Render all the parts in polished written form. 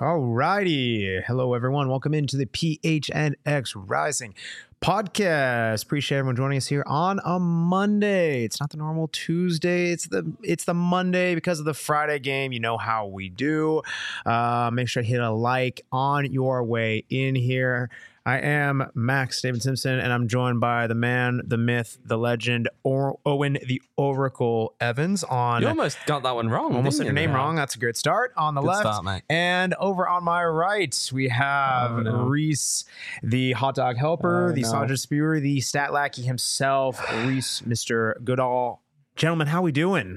Alrighty. Hello, everyone. Welcome into the PHNX Rising podcast. Appreciate everyone joining us here on a Monday. It's not the normal Tuesday. It's the Monday because of the Friday game. You know how we do. Make sure to hit a like on your way in here. I am Max David Simpson, and I'm joined by the man, the myth, the legend, Owen the Oracle Evans. You almost got that one wrong. Almost said your name wrong. That's a great start. On the Good left, start, mate. and over on my right, we have Reese, the hot dog helper, the sausage spewer, the stat lackey himself, Reese, Mr. Goodall. Gentlemen, how we doing?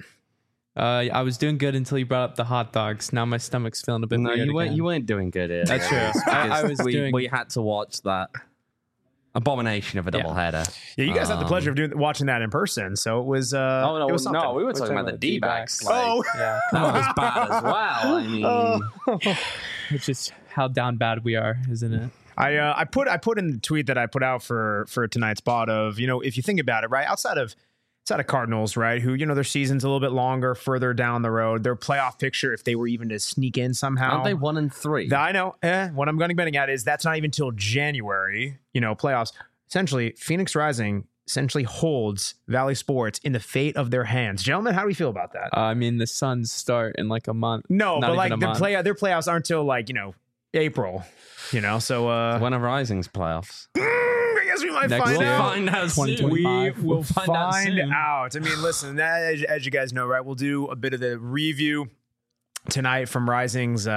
I was doing good until you brought up the hot dogs. Now my stomach's feeling a bit No, weird you weren't doing good here. That's true. I was we had to watch that abomination of a doubleheader. Yeah, you guys had the pleasure of watching that in person, so it was. We were something. talking about the D-backs. Oh, Yeah, That was bad as well. I mean, it's just how down bad we are, isn't it? I put in the tweet that I put out for tonight's pod of, if you think about it, right, outside of Cardinals, right, who, their season's a little bit longer, further down the road, their playoff picture, if they were even to sneak in somehow. aren't they 1-3? I know. What I'm going to be betting at is that's not even till January, playoffs. Essentially, Phoenix Rising essentially holds Valley Sports in the fate of their hands. Gentlemen, how do we feel about that? I mean, the Suns start in like a month. No, Not but even like a month. their playoffs aren't till April, so When are Rising's playoffs? I guess we might Next find year. out. Find out soon. 2025. We will find find out soon. out. I mean, listen, as you guys know, right, we'll do a bit of the review tonight from Rising's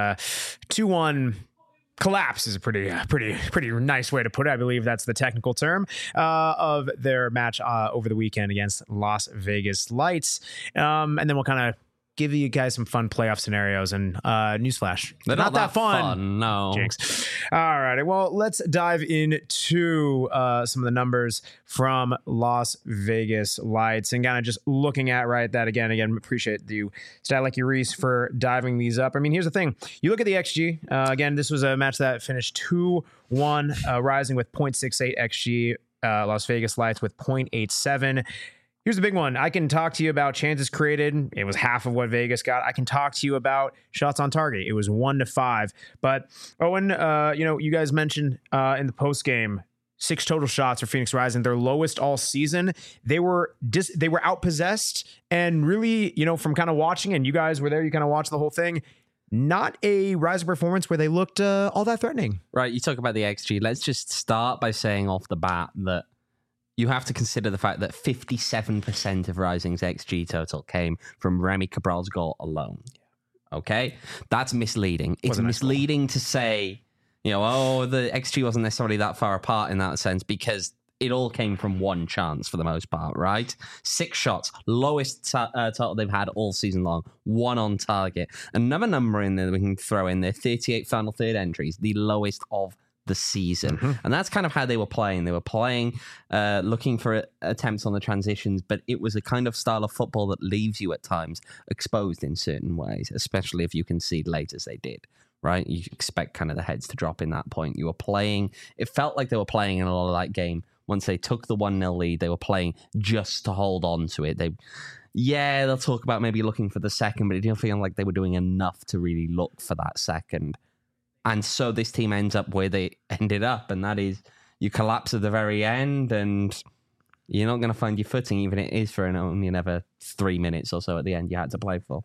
2-1 collapse is a pretty nice way to put it. I believe that's the technical term of their match over the weekend against Las Vegas Lights. And then we'll kind of give you guys some fun playoff scenarios and newsflash. They're not that fun. No. Jinx. All right. Well, let's dive into some of the numbers from Las Vegas Lights and kind of just looking at that again, appreciate you, Stat Lucky Reese, for diving these up. I mean, here's the thing. You look at the XG. Again, this was a match that finished 2-1, Rising with 0.68 XG, Las Vegas Lights with 0.87. Here's the big one. I can talk to you about chances created. It was half of what Vegas got. I can talk to you about shots on target. It was 1-5. But Owen, you guys mentioned in the post game 6 total shots for Phoenix Rising, their lowest all season. They were outpossessed, and really, from kind of watching, and you guys were there, you kind of watched the whole thing. Not a Rising performance where they looked all that threatening. Right, you talk about the XG. Let's just start by saying off the bat that you have to consider the fact that 57% of Rising's XG total came from Remy Cabral's goal alone. Okay? That's misleading. It's misleading to say, the XG wasn't necessarily that far apart in that sense because it all came from one chance for the most part, right? 6 shots, lowest total they've had all season long, 1 on target. Another number in there that we can throw in there, 38 final third entries, the lowest of the season. And that's kind of how they were playing. They were playing, looking for attempts on the transitions, but it was a kind of style of football that leaves you at times exposed in certain ways, especially if you concede late as they did, right? You expect kind of the heads to drop in that point. You were playing, it felt like they were playing in a lot of that game. Once they took the 1-0 lead, they were playing just to hold on to it. They'll talk about maybe looking for the second, but it didn't feel like they were doing enough to really look for that second. And so this team ends up where they ended up, and that is you collapse at the very end, and you're not going to find your footing, even if it is for only another 3 minutes or so at the end you had to play for.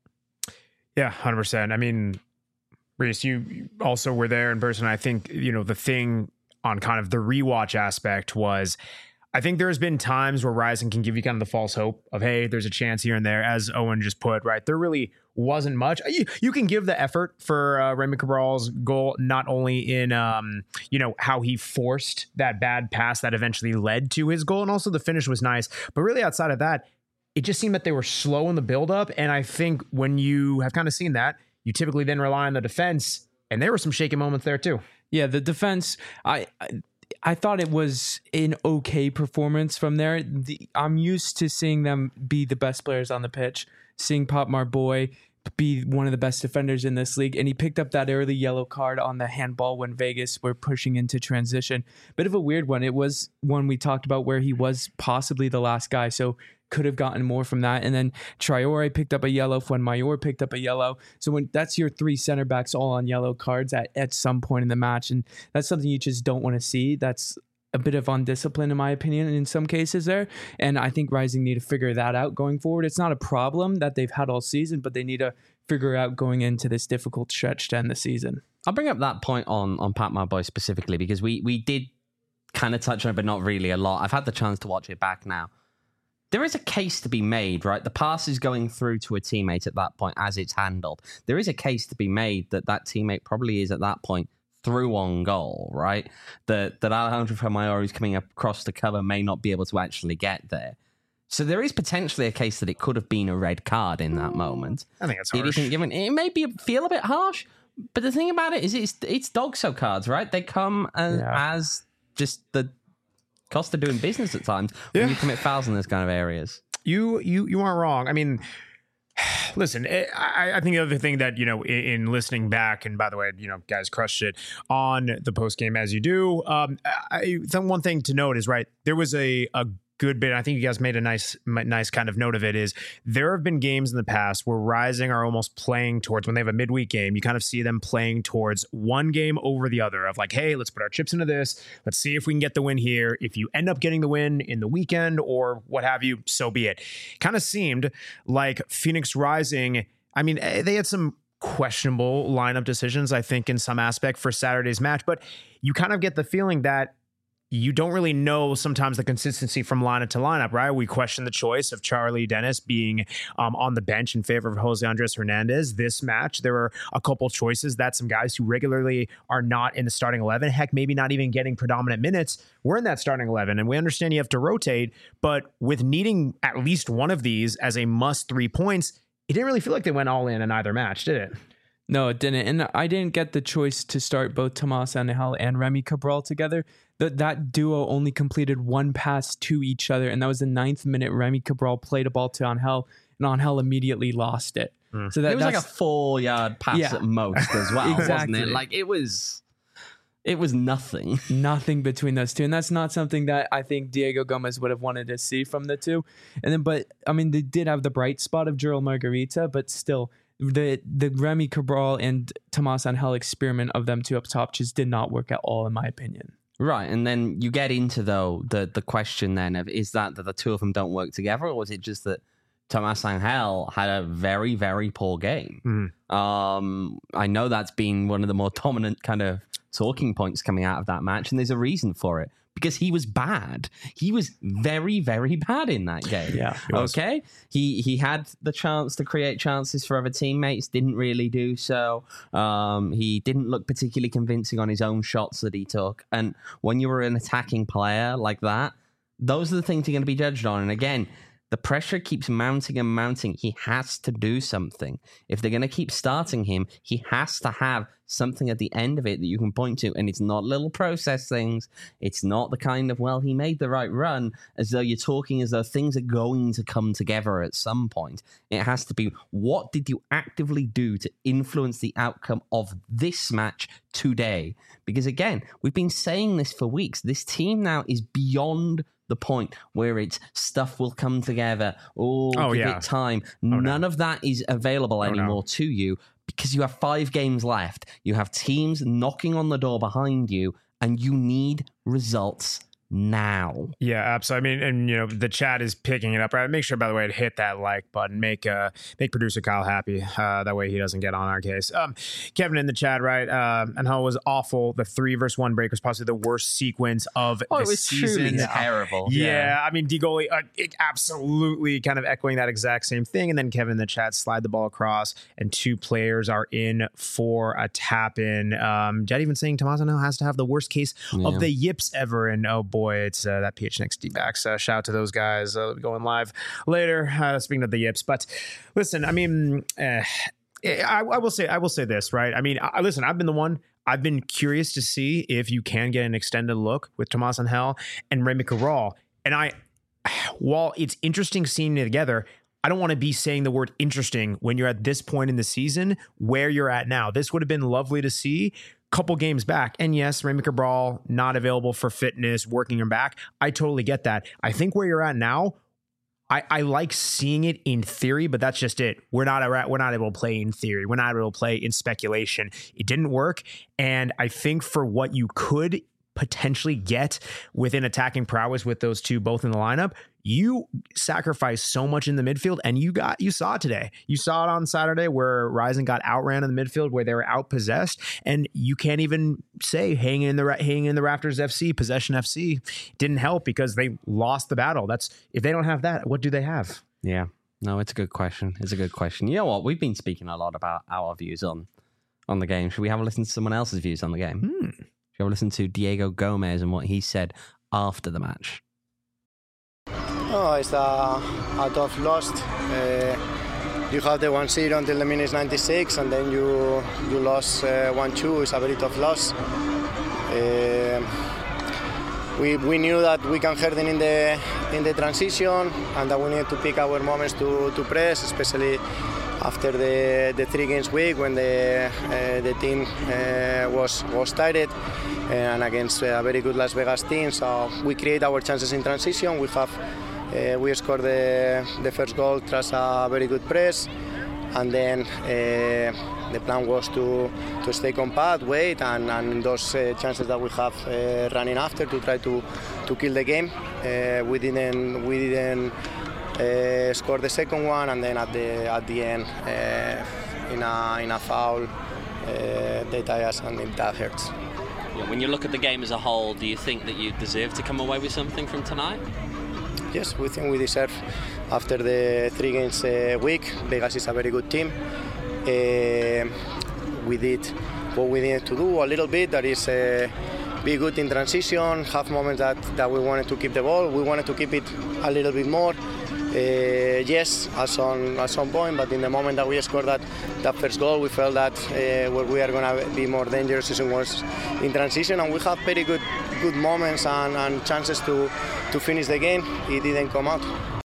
Yeah, 100%. I mean, Reese, you also were there in person. I think, the thing on kind of the rewatch aspect was, I think there's been times where Rising can give you kind of the false hope of, hey, there's a chance here and there, as Owen just put, right? There really wasn't much. You can give the effort for Remy Cabral's goal, not only in, how he forced that bad pass that eventually led to his goal, and also the finish was nice. But really outside of that, it just seemed that they were slow in the buildup. And I think when you have kind of seen that, you typically then rely on the defense, and there were some shaky moments there too. Yeah, the defense, I thought it was an okay performance from there. I'm used to seeing them be the best players on the pitch, seeing Pop Marboy be one of the best defenders in this league. And he picked up that early yellow card on the handball when Vegas were pushing into transition. Bit of a weird one. It was one we talked about where he was possibly the last guy. So could have gotten more from that. And then Traore picked up a yellow when Mayor picked up a yellow. So when that's your 3 center backs all on yellow cards at some point in the match. And that's something you just don't want to see. That's a bit of undiscipline in my opinion in some cases there. And I think Rising need to figure that out going forward. It's not a problem that they've had all season, but they need to figure out going into this difficult stretch to end the season. I'll bring up that point on Pat My Boy specifically because we did kind of touch on it, but not really a lot. I've had the chance to watch it back now. There is a case to be made, right? The pass is going through to a teammate at that point as it's handled. There is a case to be made that teammate probably is at that point through on goal, right? That Alejandro Fuenmayor, who's coming across the cover, may not be able to actually get there. So there is potentially a case that it could have been a red card in that moment. I think it's harsh. It may feel a bit harsh, but the thing about it is it's DOGSO cards, right? They come as just the cost of doing business at times when you commit fouls in those kind of areas. You aren't wrong. I mean, listen, I think the other thing that, in listening back, and by the way, guys crushed it on the post game as you do. One thing to note is, right, there was a good bit. I think you guys made a nice kind of note of it is there have been games in the past where Rising are almost playing towards when they have a midweek game. You kind of see them playing towards one game over the other of like, hey, let's put our chips into this. Let's see if we can get the win here. If you end up getting the win in the weekend or what have you, so be it. Kind of seemed like Phoenix Rising. I mean, they had some questionable lineup decisions, I think, in some aspect for Saturday's match, but you kind of get the feeling that you don't really know sometimes the consistency from lineup to lineup, right? We question the choice of Charlie Dennis being on the bench in favor of Jose Andres Hernandez. This match, there were a couple choices that some guys who regularly are not in the starting 11, heck, maybe not even getting predominant minutes, were in that starting 11. And we understand you have to rotate, but with needing at least one of these as a must 3 points, it didn't really feel like they went all in either match, did it? No, it didn't. And I didn't get the choice to start both Tomas Angel and Remy Cabral together. That duo only completed one pass to each other, and that was the 9th minute. Remy Cabral played a ball to Angel, and Angel immediately lost it. So it was like a 4-yard pass at most as well, exactly. Wasn't it? Like it was nothing. Nothing between those two. And that's not something that I think Diego Gomez would have wanted to see from the two. And then, but I mean, they did have the bright spot of Gerald Margarita, but still, the Remy Cabral and Tomas Angel experiment of them two up top just did not work at all, in my opinion. Right, and then you get into the question then of is that the two of them don't work together, or was it just that Tomas Angel had a very, very poor game? I know that's been one of the more dominant kind of talking points coming out of that match, and there's a reason for it. Because he was bad. He was very, very bad in that game. Yeah. Okay? He had the chance to create chances for other teammates, didn't really do so. He didn't look particularly convincing on his own shots that he took. And when you were an attacking player like that, those are the things you're going to be judged on. And again, the pressure keeps mounting and mounting. He has to do something. If they're going to keep starting him, he has to have something at the end of it that you can point to. And it's not little process things. It's not the kind of, well, he made the right run, as though you're talking as though things are going to come together at some point. It has to be, what did you actively do to influence the outcome of this match today? Because again, we've been saying this for weeks. This team now is beyond the point where it's stuff will come together. Give it time. None of that is available anymore to you because you have 5 games left. You have teams knocking on the door behind you, and you need results now. Yeah, absolutely. I mean, and the chat is picking it up, right? Make sure, by the way, to hit that like button. Make producer Kyle happy. That way he doesn't get on our case. Kevin in the chat, right? And how it was awful. The 3-versus-1 break was possibly the worst sequence of the season. Truly terrible. Yeah, I mean, Digoli absolutely kind of echoing that exact same thing. And then Kevin in the chat slide the ball across, and 2 players are in for a tap in. Jet even saying Tomas Angel has to have the worst case of the yips ever. And oh boy, it's that PHNX D-backs. Shout out to those guys. Going live later. Speaking of the yips, but listen, I mean, I will say this, right? I mean, listen, I've been curious to see if you can get an extended look with Tomas Angel and Remy Cabral. And while it's interesting seeing it together, I don't want to be saying the word interesting when you're at this point in the season where you're at now. This would have been lovely to see couple games back. And yes, Remy Cabral not available for fitness, working him back. I totally get that. I think where you're at now, I like seeing it in theory, but that's just it. We're not able to play in theory. We're not able to play in speculation. It didn't work. And I think for what you could potentially get within attacking prowess with those two both in the lineup, you sacrifice so much in the midfield, and you saw it today. You saw it on Saturday where Rising got outran in the midfield, where they were outpossessed, and you can't even say hanging in the Raptors FC, possession FC didn't help because they lost the battle. That's, if they don't have that, what do they have? Yeah, no, it's a good question. It's a good question. You know what? We've been speaking a lot about our views on the game. Should we have a listen to someone else's views on the game? Should we have a listen to Diego Gomez and what he said after the match? No, it's a tough loss. You have the 1-0 until the minute 96, and then you lost 1-2. It's a very tough loss. We knew that we can hurt them in the transition, and that we need to pick our moments to press, especially after the 3 games week when the team was tired and against a very good Las Vegas team. So we create our chances in transition. We scored the first goal through a very good press, and then the plan was to stay compact, wait, and those chances that we have running after to try to kill the game. We didn't score the second one, and then at the end, in a foul, they tie us, and that hurts. Yeah, when you look at the game as a whole, do you think that you deserve to come away with something from tonight? Yes, we think we deserve. After the 3 games week, Vegas is a very good team. We did what we needed to do a little bit. That is, be good in transition, have moments that we wanted to keep the ball. We wanted to keep it a little bit more. Yes, at some point, but in the moment that we scored that first goal, we felt that where we are going to be more dangerous was in transition, and we have very good moments and chances to finish the game. It didn't come out.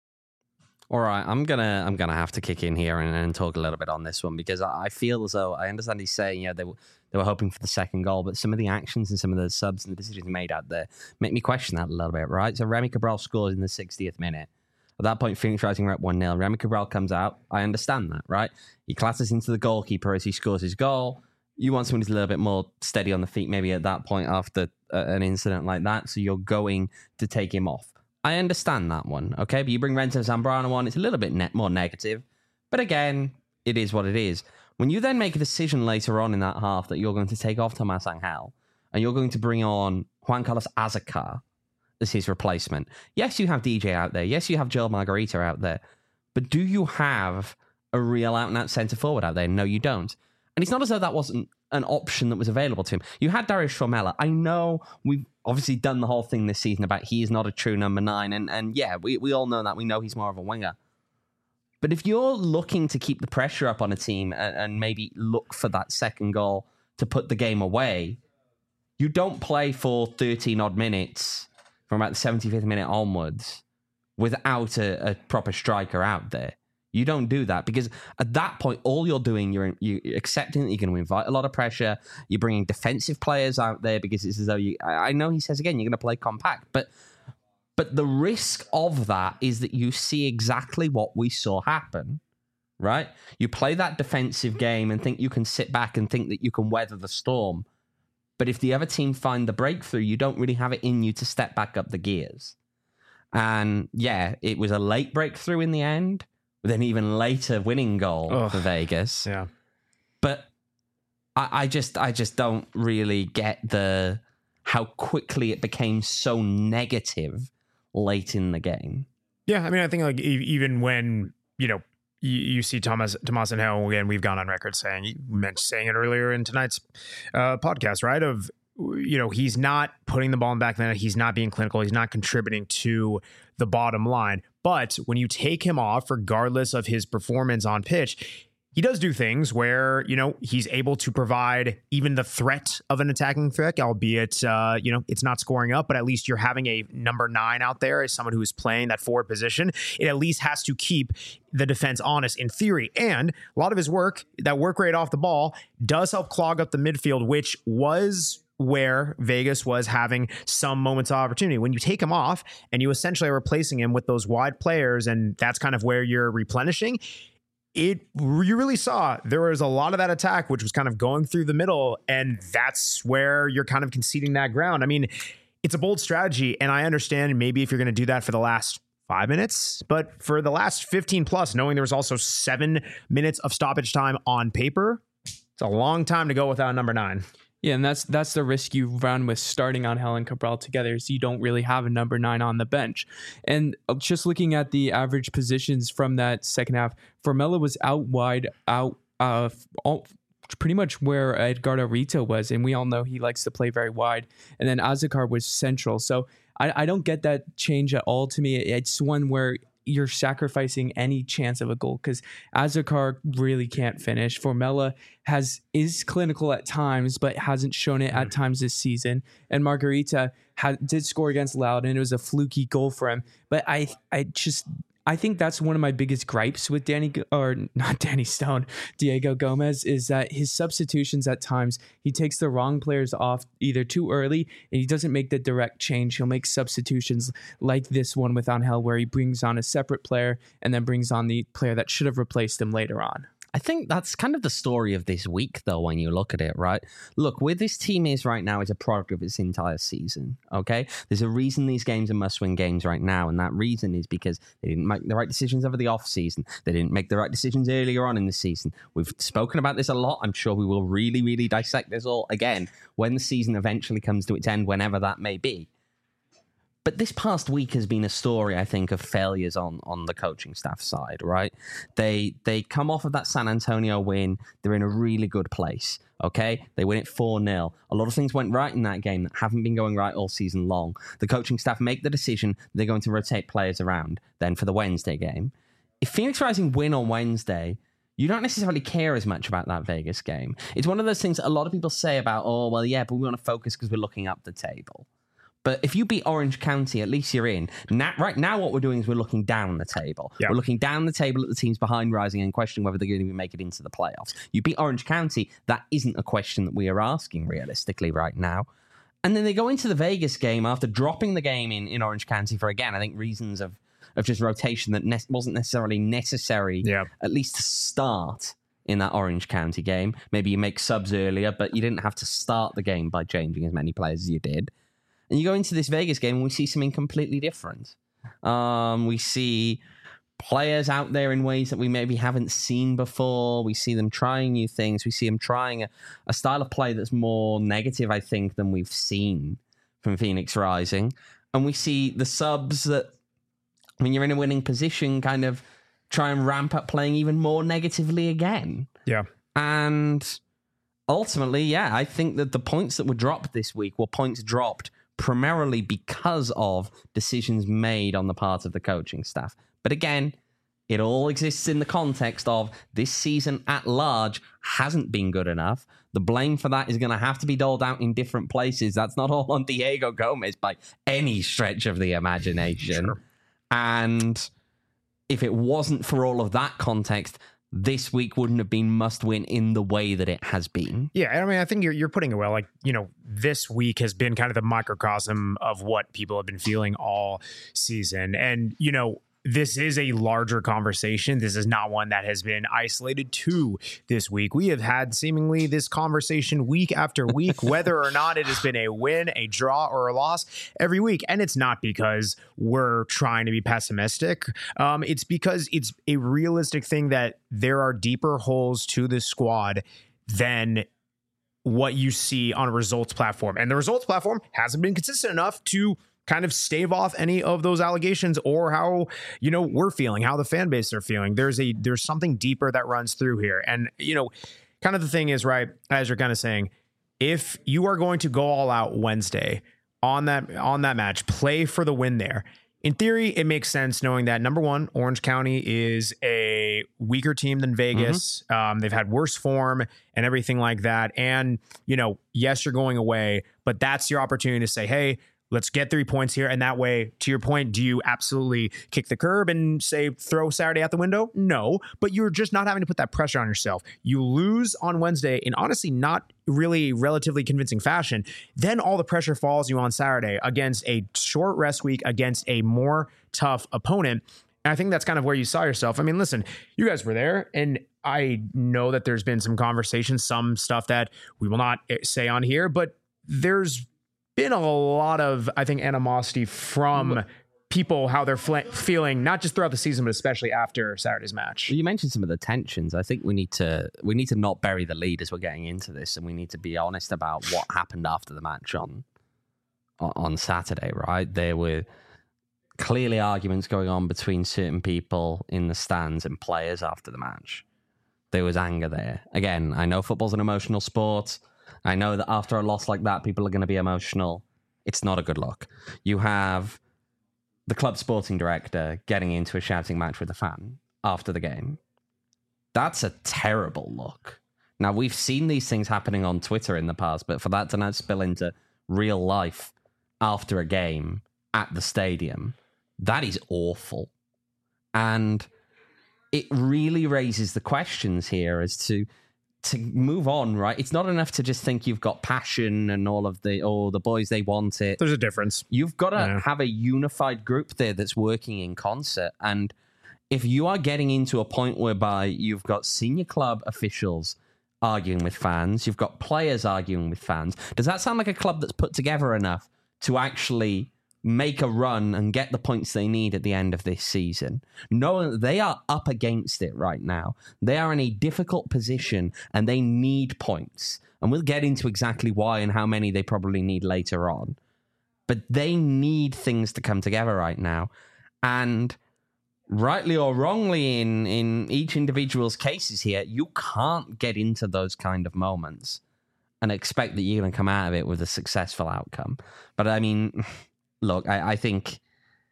All right, I'm gonna have to kick in here and talk a little bit on this one, because I feel as though I understand he's saying, they were hoping for the second goal, but some of the actions and some of the subs and the decisions made out there make me question that a little bit, right? So Remy Cabral scores in the 60th minute. At that point, Phoenix Rising were at 1-0. Remy Cabral comes out. I understand that, right? He classes into the goalkeeper as he scores his goal. You want someone who's a little bit more steady on the feet, maybe at that point after an incident like that, so you're going to take him off. I understand that one, okay? But you bring Renzo Zambrano on, it's a little bit more negative. But again, it is what it is. When you then make a decision later on in that half that you're going to take off Tomas Angel and you're going to bring on Juan Carlos Azócar as his replacement. Yes, you have DJ out there. Yes, you have Joel Margarita out there. But do you have a real out-and-out centre forward out there? No, you don't. And it's not as though that wasn't an option that was available to him. You had Darius Formella. I know we've obviously done the whole thing this season about he is not a true number 9. And yeah, we all know that. We know he's more of a winger. But if you're looking to keep the pressure up on a team and maybe look for that second goal to put the game away, you don't play for 13-odd minutes from about the 75th minute onwards without a proper striker out there. You don't do that, because at that point, all you're doing, you're accepting that you're going to invite a lot of pressure. You're bringing defensive players out there because it's as though I know he says again, you're going to play compact, but the risk of that is that you see exactly what we saw happen, right? You play that defensive game and think you can sit back and think that you can weather the storm. But if the other team find the breakthrough, you don't really have it in you to step back up the gears. And yeah, it was a late breakthrough in the end, with an even later winning goal for Vegas. Yeah. But I just don't really get how quickly it became so negative late in the game. Yeah, I mean, I think like even when, you see Tomas Angel, again, we've gone on record saying it earlier in tonight's podcast, right? Of, he's not putting the ball in the back of the net. He's not being clinical. He's not contributing to the bottom line. But when you take him off, regardless of his performance on pitch, he does do things where, he's able to provide even the threat of an attacking threat, albeit, it's not scoring up, but at least you're having a number 9 out there as someone who is playing that forward position. It at least has to keep the defense honest in theory. And a lot of his work, that work rate off the ball, does help clog up the midfield, which was where Vegas was having some moments of opportunity. When you take him off and you essentially are replacing him with those wide players, and that's kind of where you're replenishing, you really saw there was a lot of that attack, which was kind of going through the middle, and that's where you're kind of conceding that ground. I mean, it's a bold strategy, and I understand maybe if you're going to do that for the last 5 minutes, but for the last 15 plus, knowing there was also 7 minutes of stoppage time on paper, it's a long time to go without number 9. Yeah, and that's the risk you run with starting Angel and Cabral together, is you don't really have a number 9 on the bench. And just looking at the average positions from that second half, Formella was out wide, pretty much where Edgardo Rito was, and we all know he likes to play very wide. And then Azakar was central. So I don't get that change at all. To me, it's one where you're sacrificing any chance of a goal, because Azakar really can't finish. Formella is clinical at times, but hasn't shown it at times this season. And Margarita did score against Loudoun, and it was a fluky goal for him. But I think that's one of my biggest gripes with Diego Gomez, is that his substitutions at times, he takes the wrong players off either too early, and he doesn't make the direct change. He'll make substitutions like this one with Angel, where he brings on a separate player and then brings on the player that should have replaced him later on. I think that's kind of the story of this week, though, when you look at it, right? Look, where this team is right now is a product of its entire season, okay? There's a reason these games are must-win games right now, and that reason is because they didn't make the right decisions over the off-season. They didn't make the right decisions earlier on in the season. We've spoken about this a lot. I'm sure we will really, really dissect this all again when the season eventually comes to its end, whenever that may be. But this past week has been a story, I think, of failures on the coaching staff side, right? They come off of that San Antonio win. They're in a really good place, okay? They win it 4-0. A lot of things went right in that game that haven't been going right all season long. The coaching staff make the decision they're going to rotate players around then for the Wednesday game. If Phoenix Rising win on Wednesday, you don't necessarily care as much about that Vegas game. It's one of those things that a lot of people say about, but we want to focus because we're looking up the table. But if you beat Orange County, at least you're in. Right now, what we're doing is we're looking down the table. Yep. We're looking down the table at the teams behind Rising and questioning whether they're going to make it into the playoffs. You beat Orange County, that isn't a question that we are asking realistically right now. And then they go into the Vegas game after dropping the game in Orange County for, again, I think reasons of just rotation that wasn't necessarily necessary, at least to start in that Orange County game. Maybe you make subs earlier, but you didn't have to start the game by changing as many players as you did. And you go into this Vegas game and we see something completely different. We see players out there in ways that we maybe haven't seen before. We see them trying new things. We see them trying a style of play that's more negative, I think, than we've seen from Phoenix Rising. And we see the subs that, when you're in a winning position, kind of try and ramp up playing even more negatively again. Yeah. And ultimately, I think that the points that were dropped this week were points dropped primarily because of decisions made on the part of the coaching staff. But again, it all exists in the context of this season at large hasn't been good enough. The blame for that is going to have to be doled out in different places. That's not all on Diego Gomez by any stretch of the imagination. Sure. And if it wasn't for all of that context, this week wouldn't have been must win in the way that it has been. Yeah, I mean, I think you're putting it well. Like, this week has been kind of the microcosm of what people have been feeling all season. And, this is a larger conversation. This is not one that has been isolated to this week. We have had seemingly this conversation week after week, whether or not it has been a win, a draw, or a loss every week. And it's not because we're trying to be pessimistic. It's because it's a realistic thing that there are deeper holes to this squad than what you see on a results platform. And the results platform hasn't been consistent enough to kind of stave off any of those allegations or how, we're feeling, how the fan base are feeling. There's something deeper that runs through here. And, kind of the thing is, right, as you're kind of saying, if you are going to go all out Wednesday on that match, play for the win there, in theory, it makes sense knowing that, number one, Orange County is a weaker team than Vegas. They've had worse form and everything like that. And, yes, you're going away, but that's your opportunity to say, hey, let's get 3 points here. And that way, to your point, do you absolutely kick the curb and say, throw Saturday out the window? No, but you're just not having to put that pressure on yourself. You lose on Wednesday in honestly not really relatively convincing fashion. Then all the pressure falls you on Saturday against a short rest week, against a more tough opponent. And I think that's kind of where you saw yourself. I mean, listen, you guys were there, and I know that there's been some conversations, some stuff that we will not say on here, but there's been a lot of, I think, animosity from people, how they're feeling, not just throughout the season, but especially after Saturday's match. You mentioned some of the tensions. I think we need to not bury the lead as we're getting into this, and we need to be honest about what happened after the match on Saturday, right? There were clearly arguments going on between certain people in the stands and players after the match. There was anger there. Again, I know football's an emotional sport. I know that after a loss like that, people are going to be emotional. It's not a good look. You have the club sporting director getting into a shouting match with a fan after the game. That's a terrible look. Now, we've seen these things happening on Twitter in the past, but for that to now spill into real life after a game at the stadium, that is awful. And it really raises the questions here as to move on, right? It's not enough to just think you've got passion and all of the boys, they want it. There's a difference. You've got to have a unified group there that's working in concert. And if you are getting into a point whereby you've got senior club officials arguing with fans, you've got players arguing with fans, does that sound like a club that's put together enough to actually make a run and get the points they need at the end of this season? Knowing that they are up against it right now. They are in a difficult position and they need points. And we'll get into exactly why and how many they probably need later on. But they need things to come together right now. And rightly or wrongly in each individual's cases here, you can't get into those kind of moments and expect that you're going to come out of it with a successful outcome. But I mean, look, I think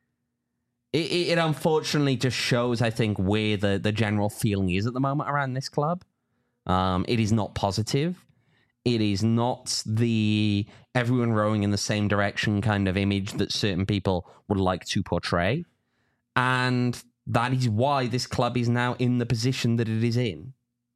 it unfortunately just shows, I think, where the general feeling is at the moment around this club. It is not positive. It is not the everyone rowing in the same direction kind of image that certain people would like to portray. And that is why this club is now in the position that it is in.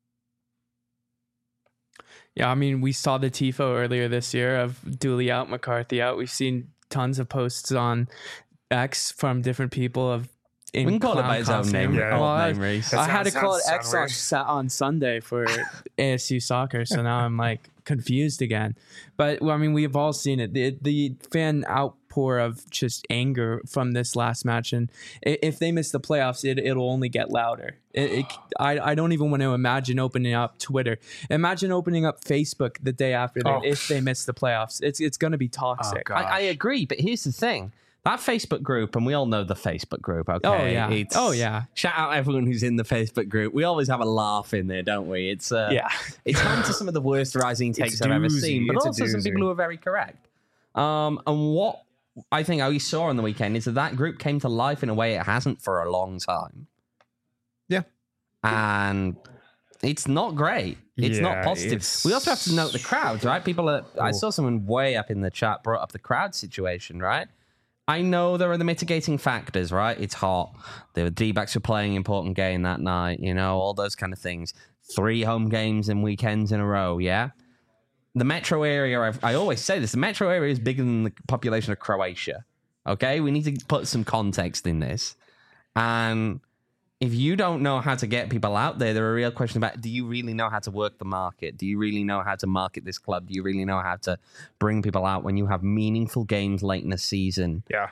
Yeah, I mean, we saw the TIFO earlier this year of Dooley out, McCarthy out. We've seen tons of posts on X from different people of we can call it by his own name. Yeah. Well, I had to call it X weird. on Sunday for ASU soccer, so now I'm like confused again. But well, I mean, we've all seen it. The fan outpour of just anger from this last match, and if they miss the playoffs, it'll only get louder. I don't even want to imagine opening up Twitter. Imagine opening up Facebook the day after if they miss the playoffs. It's going to be toxic. I agree, but here's the thing. That Facebook group, and we all know the Facebook group, okay? Oh, yeah. Shout out everyone who's in the Facebook group. We always have a laugh in there, don't we? It's it's home to some of the worst rising takes I've ever seen, but also some people who are very correct. And what I think we saw on the weekend is that group came to life in a way it hasn't for a long time. Yeah. And it's not great. It's not positive. We also have to note the crowds, right? I saw someone way up in the chat brought up the crowd situation, right? I know there are the mitigating factors, right? It's hot. The D-backs were playing an important game that night, all those kind of things. 3 home games and weekends in a row, yeah? The metro area, I always say this, the metro area is bigger than the population of Croatia, okay? We need to put some context in this. And if you don't know how to get people out there are real questions about, do you really know how to work the market? Do you really know how to market this club? Do you really know how to bring people out when you have meaningful games late in the season? Yeah.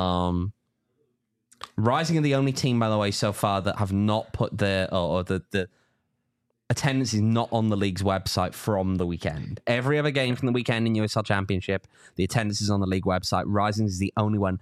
Rising are the only team, by the way, so far that have not put the attendance is not on the league's website from the weekend. Every other game from the weekend in USL Championship, the attendance is on the league website. Rising is the only one that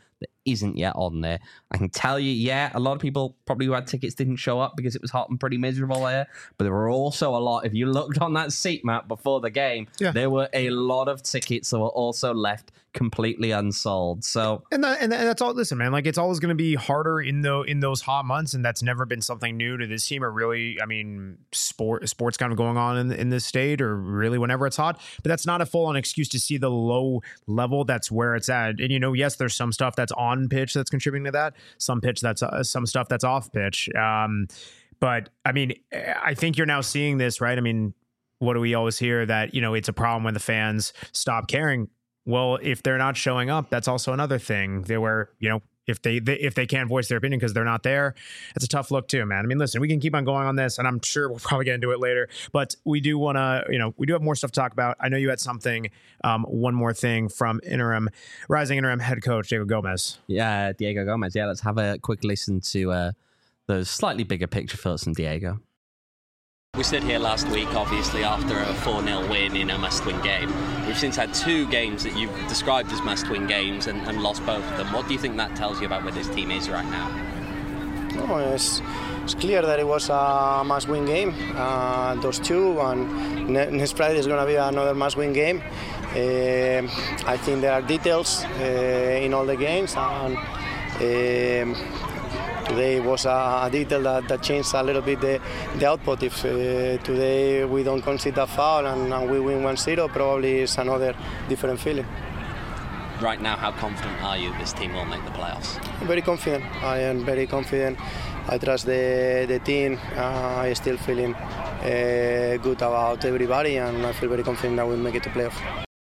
isn't yet on there. I can tell you, yeah, a lot of people probably who had tickets didn't show up because it was hot and pretty miserable there. But there were also a lot, if you looked on that seat map before the game, there were a lot of tickets that were also left completely unsold. So and that's all. Listen, man, like it's always going to be harder in those hot months, and that's never been something new to this team. Or really, I mean, sports kind of going on in this state, or really whenever it's hot. But that's not a full on excuse to see the low level. That's where it's at. And yes, there's some stuff that's on pitch that's contributing to that. Some stuff that's off pitch. But I mean, I think you're now seeing this, right? I mean, what do we always hear that it's a problem when the fans stop caring? Well, if they're not showing up, that's also another thing. If they can't voice their opinion because they're not there, it's a tough look too, man. I mean, listen, we can keep on going on this, and I'm sure we'll probably get into it later. But we do want to, we do have more stuff to talk about. I know you had something, one more thing from rising interim head coach Diego Gomez. Yeah, Diego Gomez. Yeah, let's have a quick listen to those slightly bigger picture thoughts from Diego. We stood here last week, obviously, after a 4-0 win in a must-win game. We've since had 2 games that you've described as must-win games and lost both of them. What do you think that tells you about where this team is right now? No, it's clear that it was a must-win game, those 2, and next Friday is going to be another must-win game. I think there are details in all the games, and today was a detail that changed a little bit the output. If today we don't concede a foul and we win 1-0, probably it's another different feeling. Right now, how confident are you this team will make the playoffs? Very confident. I am very confident. I trust the team. I still feeling good about everybody, and I feel very confident that we'll make it to playoffs.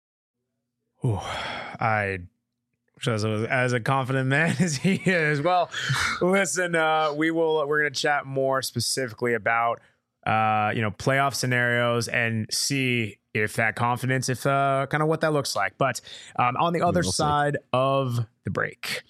As a confident man as he is. Well, listen, we're going to chat more specifically about playoff scenarios and see if that confidence, kind of what that looks like. But on the other side of the break.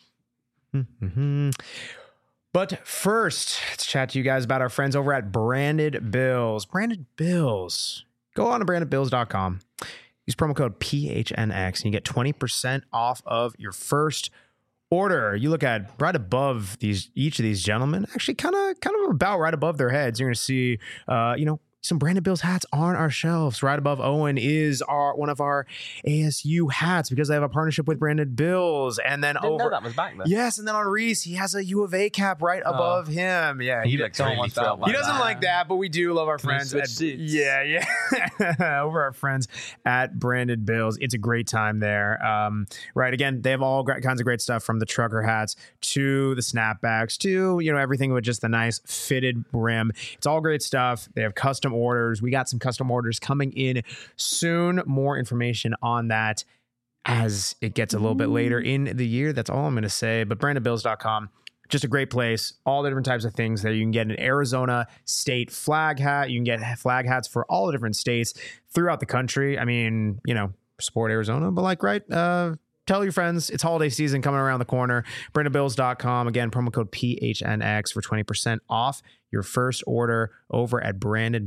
But first, let's chat to you guys about our friends over at Branded Bills. Branded Bills. Go on to brandedbills.com. Use promo code PHNX and you get 20% off of your first order. You look at right above each of these gentlemen, actually kind of about right above their heads. You're going to see, some Branded Bills hats on our shelves. Right above Owen is one of our ASU hats because they have a partnership with Branded Bills. And then Didn't know that was back there. Yes, and then on Reese, he has a U of A cap right above him. Yeah, he looks really thrilled by He doesn't like that, but we do love our friends. Yeah. Over our friends at Branded Bills. It's a great time there. Right, again, they have all kinds of great stuff from the trucker hats to the snapbacks to, everything with just the nice fitted rim. It's all great stuff. They have custom orders. We got some custom orders coming in soon. More information on that as it gets a little bit later in the year. That's all I'm going to say. But brandedbills.com, just a great place. All the different types of things there. You can get an Arizona state flag hat. You can get flag hats for all the different states throughout the country. I mean, support Arizona, but tell your friends. It's holiday season coming around the corner. brandedbills.com. Again, promo code PHNX for 20% off your first order over at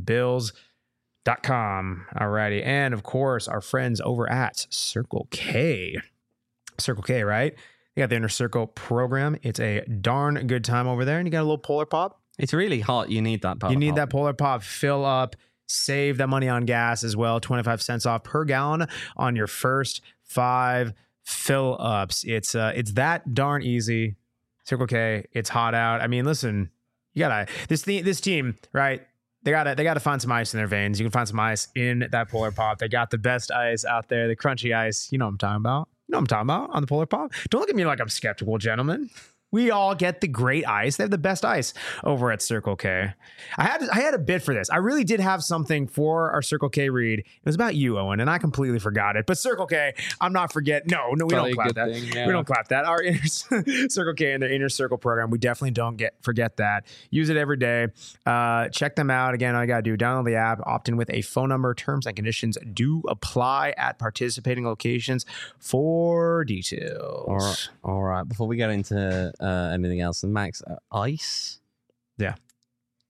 brandedbills.com. Alrighty. And of course, our friends over at Circle K. Circle K, right? They got the Inner Circle program. It's a darn good time over there. And you got a little Polar Pop. It's really hot. You need that Polar Pop. You need that Polar Pop. Fill up. Save that money on gas as well. 25 cents off per gallon on your first 5 fill ups. It's that darn easy. Circle K. It's hot out. I mean, listen, you gotta this team, right? They gotta find some ice in their veins. You can find some ice in that Polar Pop. They got the best ice out there, the crunchy ice. You know what I'm talking about. On the Polar Pop. Don't look at me like I'm skeptical, gentlemen. We all get the great ice. They have the best ice over at Circle K. I had a bit for this. I really did have something for our Circle K read. It was about you, Owen, and I completely forgot it. But Circle K, I'm not forgetting. No, we don't clap that. We don't clap that. Our Circle K and their Inner Circle program, we definitely don't forget that. Use it every day. Check them out. Again, all you got to do, download the app, opt in with a phone number. Terms and conditions do apply at participating locations for details. All right. Before we get into anything else, and Max, ice? Yeah.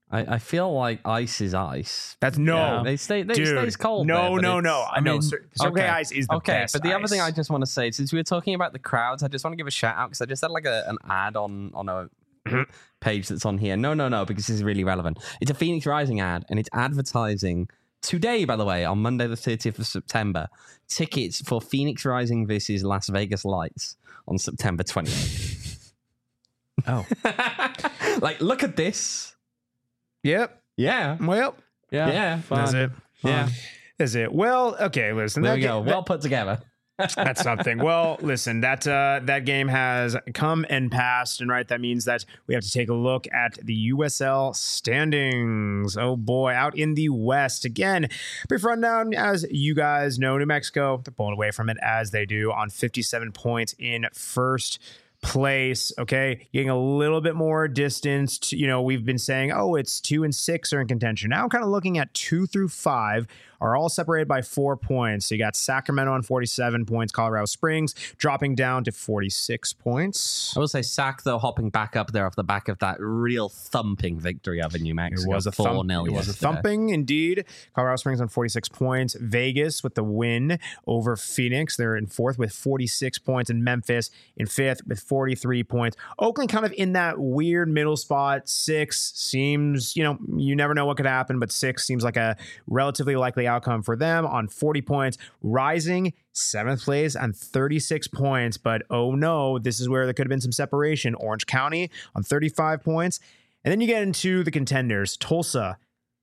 I feel like ice is ice. That's no. They stays cold. No, there, but no. I know. mean, Circle K Ice is the best. But the other thing I ice. just want to say, since we were talking about the crowds, I just want to give a shout out because I just had like an ad on a page that's on here. No, because this is really relevant. It's a Phoenix Rising ad, and it's advertising today, by the way, on Monday the 30th of September, tickets for Phoenix Rising versus Las Vegas Lights on September 28th. Oh. Like, look at this. Yep. Yeah. Well, Yeah. Fun. that's it. Yeah. Is it? Well, okay, listen. There that we ga- go. Well put together. That's something. Well, listen, that game has come and passed, and right, that means that we have to take a look at the USL standings. Oh boy, out in the West again. Brief rundown, as you guys know, New Mexico, they're pulling away from it as they do on 57 points in first place. Okay, getting a little bit more distance to, we've been saying, it's 2 and 6 are in contention. Now I'm kind of looking at 2 through 5 are all separated by 4 points. So you got Sacramento on 47 points, Colorado Springs dropping down to 46 points. I will say Sac, though, hopping back up there off the back of that real thumping victory over New Mexico. It was a 4-0 It was a yesterday. thumping indeed. Colorado Springs on 46 points. Vegas with the win over Phoenix. They're in 4th with 46 points, and Memphis in 5th with 43 points. Oakland kind of in that weird middle spot. 6 seems, you never know what could happen, but 6 seems like a relatively likely outcome for them on 40 points. Rising 7th place on 36 points, but oh no, this is where there could have been some separation. Orange County on 35 points. And then you get into the contenders. Tulsa,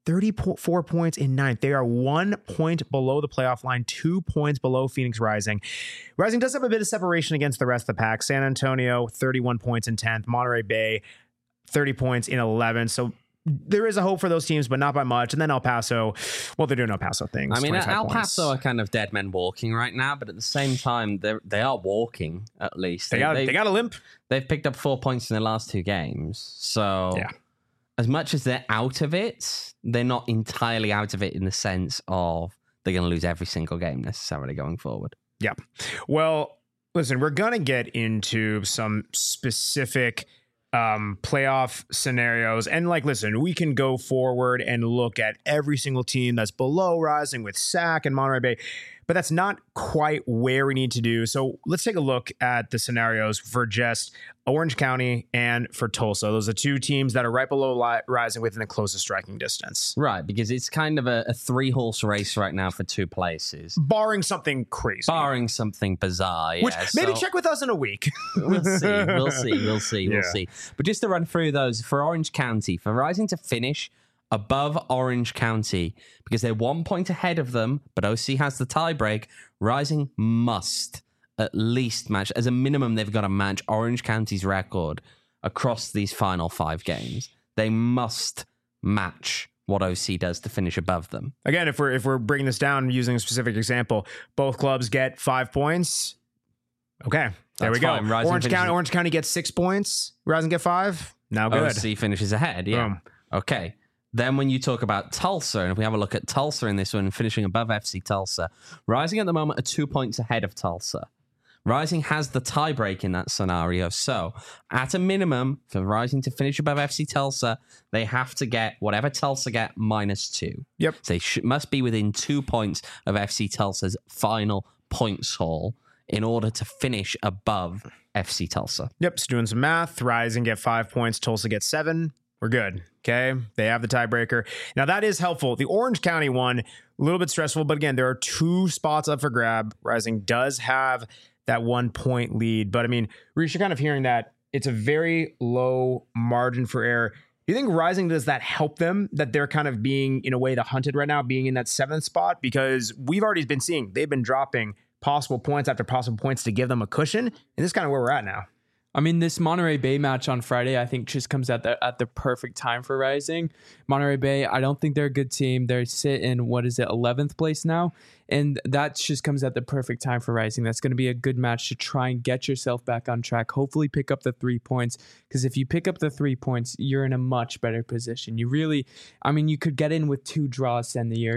34 points in 9th. They are 1 point below the playoff line, 2 points below Phoenix Rising. Rising does have a bit of separation against the rest of the pack. San Antonio, 31 points in 10th. Monterey Bay, 30 points in 11th. So there is a hope for those teams, but not by much. And then El Paso, well, they're doing El Paso things. I mean, 25 El points. Paso are kind of dead men walking right now, but at the same time, they are walking, at least. They got a limp. They've picked up 4 points in their last 2 games. So Yeah. as much as they're out of it, they're not entirely out of it in the sense of they're going to lose every single game necessarily going forward. Yeah. Well, listen, we're going to get into some specific playoff scenarios. And listen, we can go forward and look at every single team that's below Rising with SAC and Monterey Bay, but that's not quite where we need to do. So let's take a look at the scenarios for just Orange County and for Tulsa. Those are 2 teams that are right below Rising within the closest striking distance. Right, because it's kind of a 3-horse race right now for 2 places. Barring something crazy. Barring something bizarre. Which yeah, maybe so- check with us in a week. We'll see. Yeah. But just to run through those, for Orange County, for Rising to finish above Orange County, because they're 1 point ahead of them, but OC has the tiebreak, Rising must at least match, as a minimum, they've got to match Orange County's record across these final 5 games. They must match what OC does to finish above them. Again, if we're breaking this down using a specific example, both clubs get 5 points. Okay, there That's we go. fine. Rising Orange County gets 6 points. Rising get 5. Now good. OC finishes ahead, yeah. Boom. Okay. Then when you talk about Tulsa, and if we have a look at Tulsa in this one, finishing above FC Tulsa, Rising at the moment are 2 points ahead of Tulsa. Rising has the tiebreak in that scenario. So, at a minimum, for Rising to finish above FC Tulsa, they have to get whatever Tulsa get -2. Yep. So they must be within 2 points of FC Tulsa's final points haul in order to finish above FC Tulsa. Yep, just doing some math. Rising get 5 points. Tulsa gets 7. We're good. Okay, they have the tiebreaker. Now that is helpful. The Orange County one, a little bit stressful, but again, there are 2 spots up for grab. Rising does have that 1 point lead, but I mean, Reece, you're kind of hearing that it's a very low margin for error. Do you think Rising, does that help them, that they're kind of being, in a way, the hunted right now, being in that 7th spot? Because we've already been seeing they've been dropping possible points after possible points to give them a cushion, and this is kind of where we're at now. I mean, this Monterey Bay match on Friday, I think, just comes at the perfect time for Rising. Monterey Bay, I don't think they're a good team. They sit in, 11th place now? And that just comes at the perfect time for Rising. That's going to be a good match to try and get yourself back on track. Hopefully pick up the 3 points, because if you pick up the 3 points, you're in a much better position. You really, I mean, you could get in with 2 draws to end the year.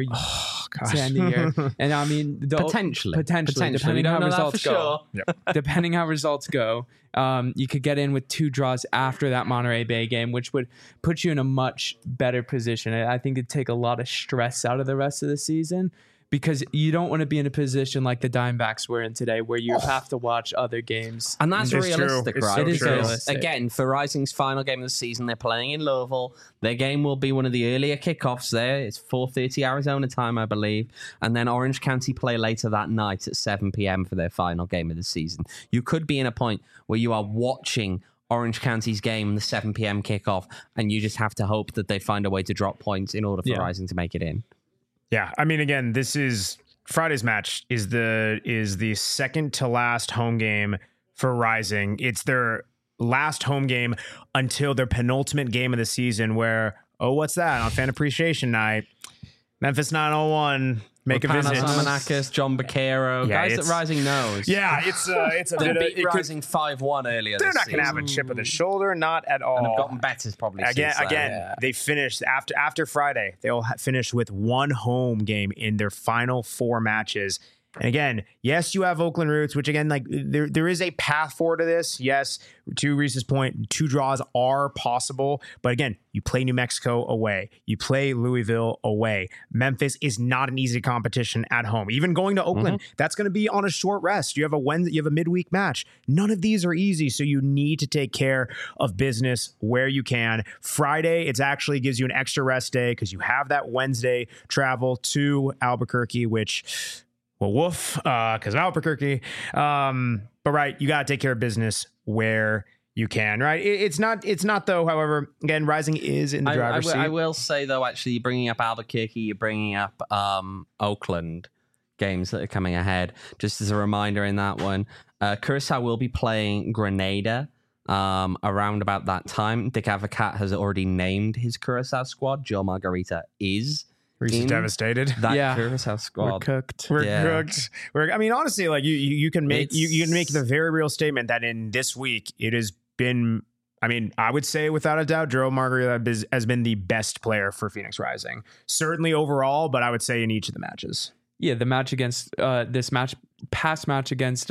To end the year. And I mean, Potentially. depending We how don't know that results for go. sure. Depending how results go, you could get in with 2 draws after that Monterey Bay game, which would put you in a much better position. I think it'd take a lot of stress out of the rest of the season, because you don't want to be in a position like the Diamondbacks were in today, where you have to watch other games. And that's It's realistic, true. It's right? so It is true. realistic. Again, for Rising's final game of the season, they're playing in Louisville. Their game will be one of the earlier kickoffs there. It's 4:30 Arizona time, I believe. And then Orange County play later that night at 7 p.m. for their final game of the season. You could be in a point where you are watching Orange County's game, the 7 p.m. kickoff, and you just have to hope that they find a way to drop points in order for Rising to make it in. Yeah, I mean, again, this is Friday's match is the second to last home game for Rising. It's their last home game until their penultimate game of the season, where, what's that? On Fan Appreciation Night, Memphis 901 make a visit. Samanakis, John Baquero, Yeah, guys it's- that Rising knows. Yeah, it's a They bit of, beat it could- Rising 5-1 earlier they're this not going to season. have a chip on the shoulder, not at all. And have gotten better probably since then. Again, they finished after Friday. They'll finish with 1 home game in their final 4 matches. And again, yes, you have Oakland roots, which again, like there is a path forward to this. Yes, to Reese's point, 2 draws are possible. But again, you play New Mexico away. You play Louisville away. Memphis is not an easy competition at home. Even going to Oakland, that's going to be on a short rest. You have a midweek match. None of these are easy. So you need to take care of business where you can. Friday, it actually gives you an extra rest day because you have that Wednesday travel to Albuquerque, which... well, woof, because of Albuquerque. But right, you got to take care of business where you can, right? It's not though. However, again, Rising is in the driver's seat. I will say though, actually, you're bringing up Albuquerque, you're bringing up Oakland games that are coming ahead. Just as a reminder, in that one, Curacao will be playing Grenada around about that time. Dick Avocat has already named his Curacao squad. Joe Margarita is. Reese is devastated. That Curacao squad. We're cooked. We're cooked. I mean, honestly, like you can make you can make the very real statement that in this week it has been. I mean, I would say without a doubt, Joe Margarita has been the best player for Phoenix Rising. Certainly overall, but I would say in each of the matches. Yeah, the match against past match against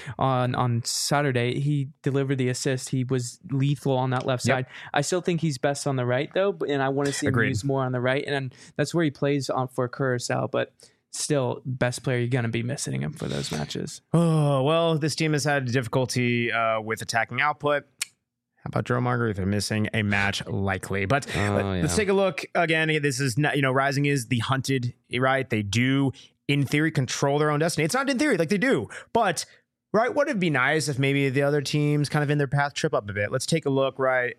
on Saturday, he delivered the assist. He was lethal on that left side. I still think he's best on the right though, and I want to see him use more on the right, and that's where he plays on for Curacao. But still, best player, you're gonna be missing him for those matches. Oh well, this team has had difficulty with attacking output. How about Joe Margarita missing a match likely? But let's take a look again. This is not, Rising is the hunted, right? They do, in theory, control their own destiny. It's not in theory, like they do, but right, would it be nice if maybe the other teams kind of in their path trip up a bit? Let's take a look, right?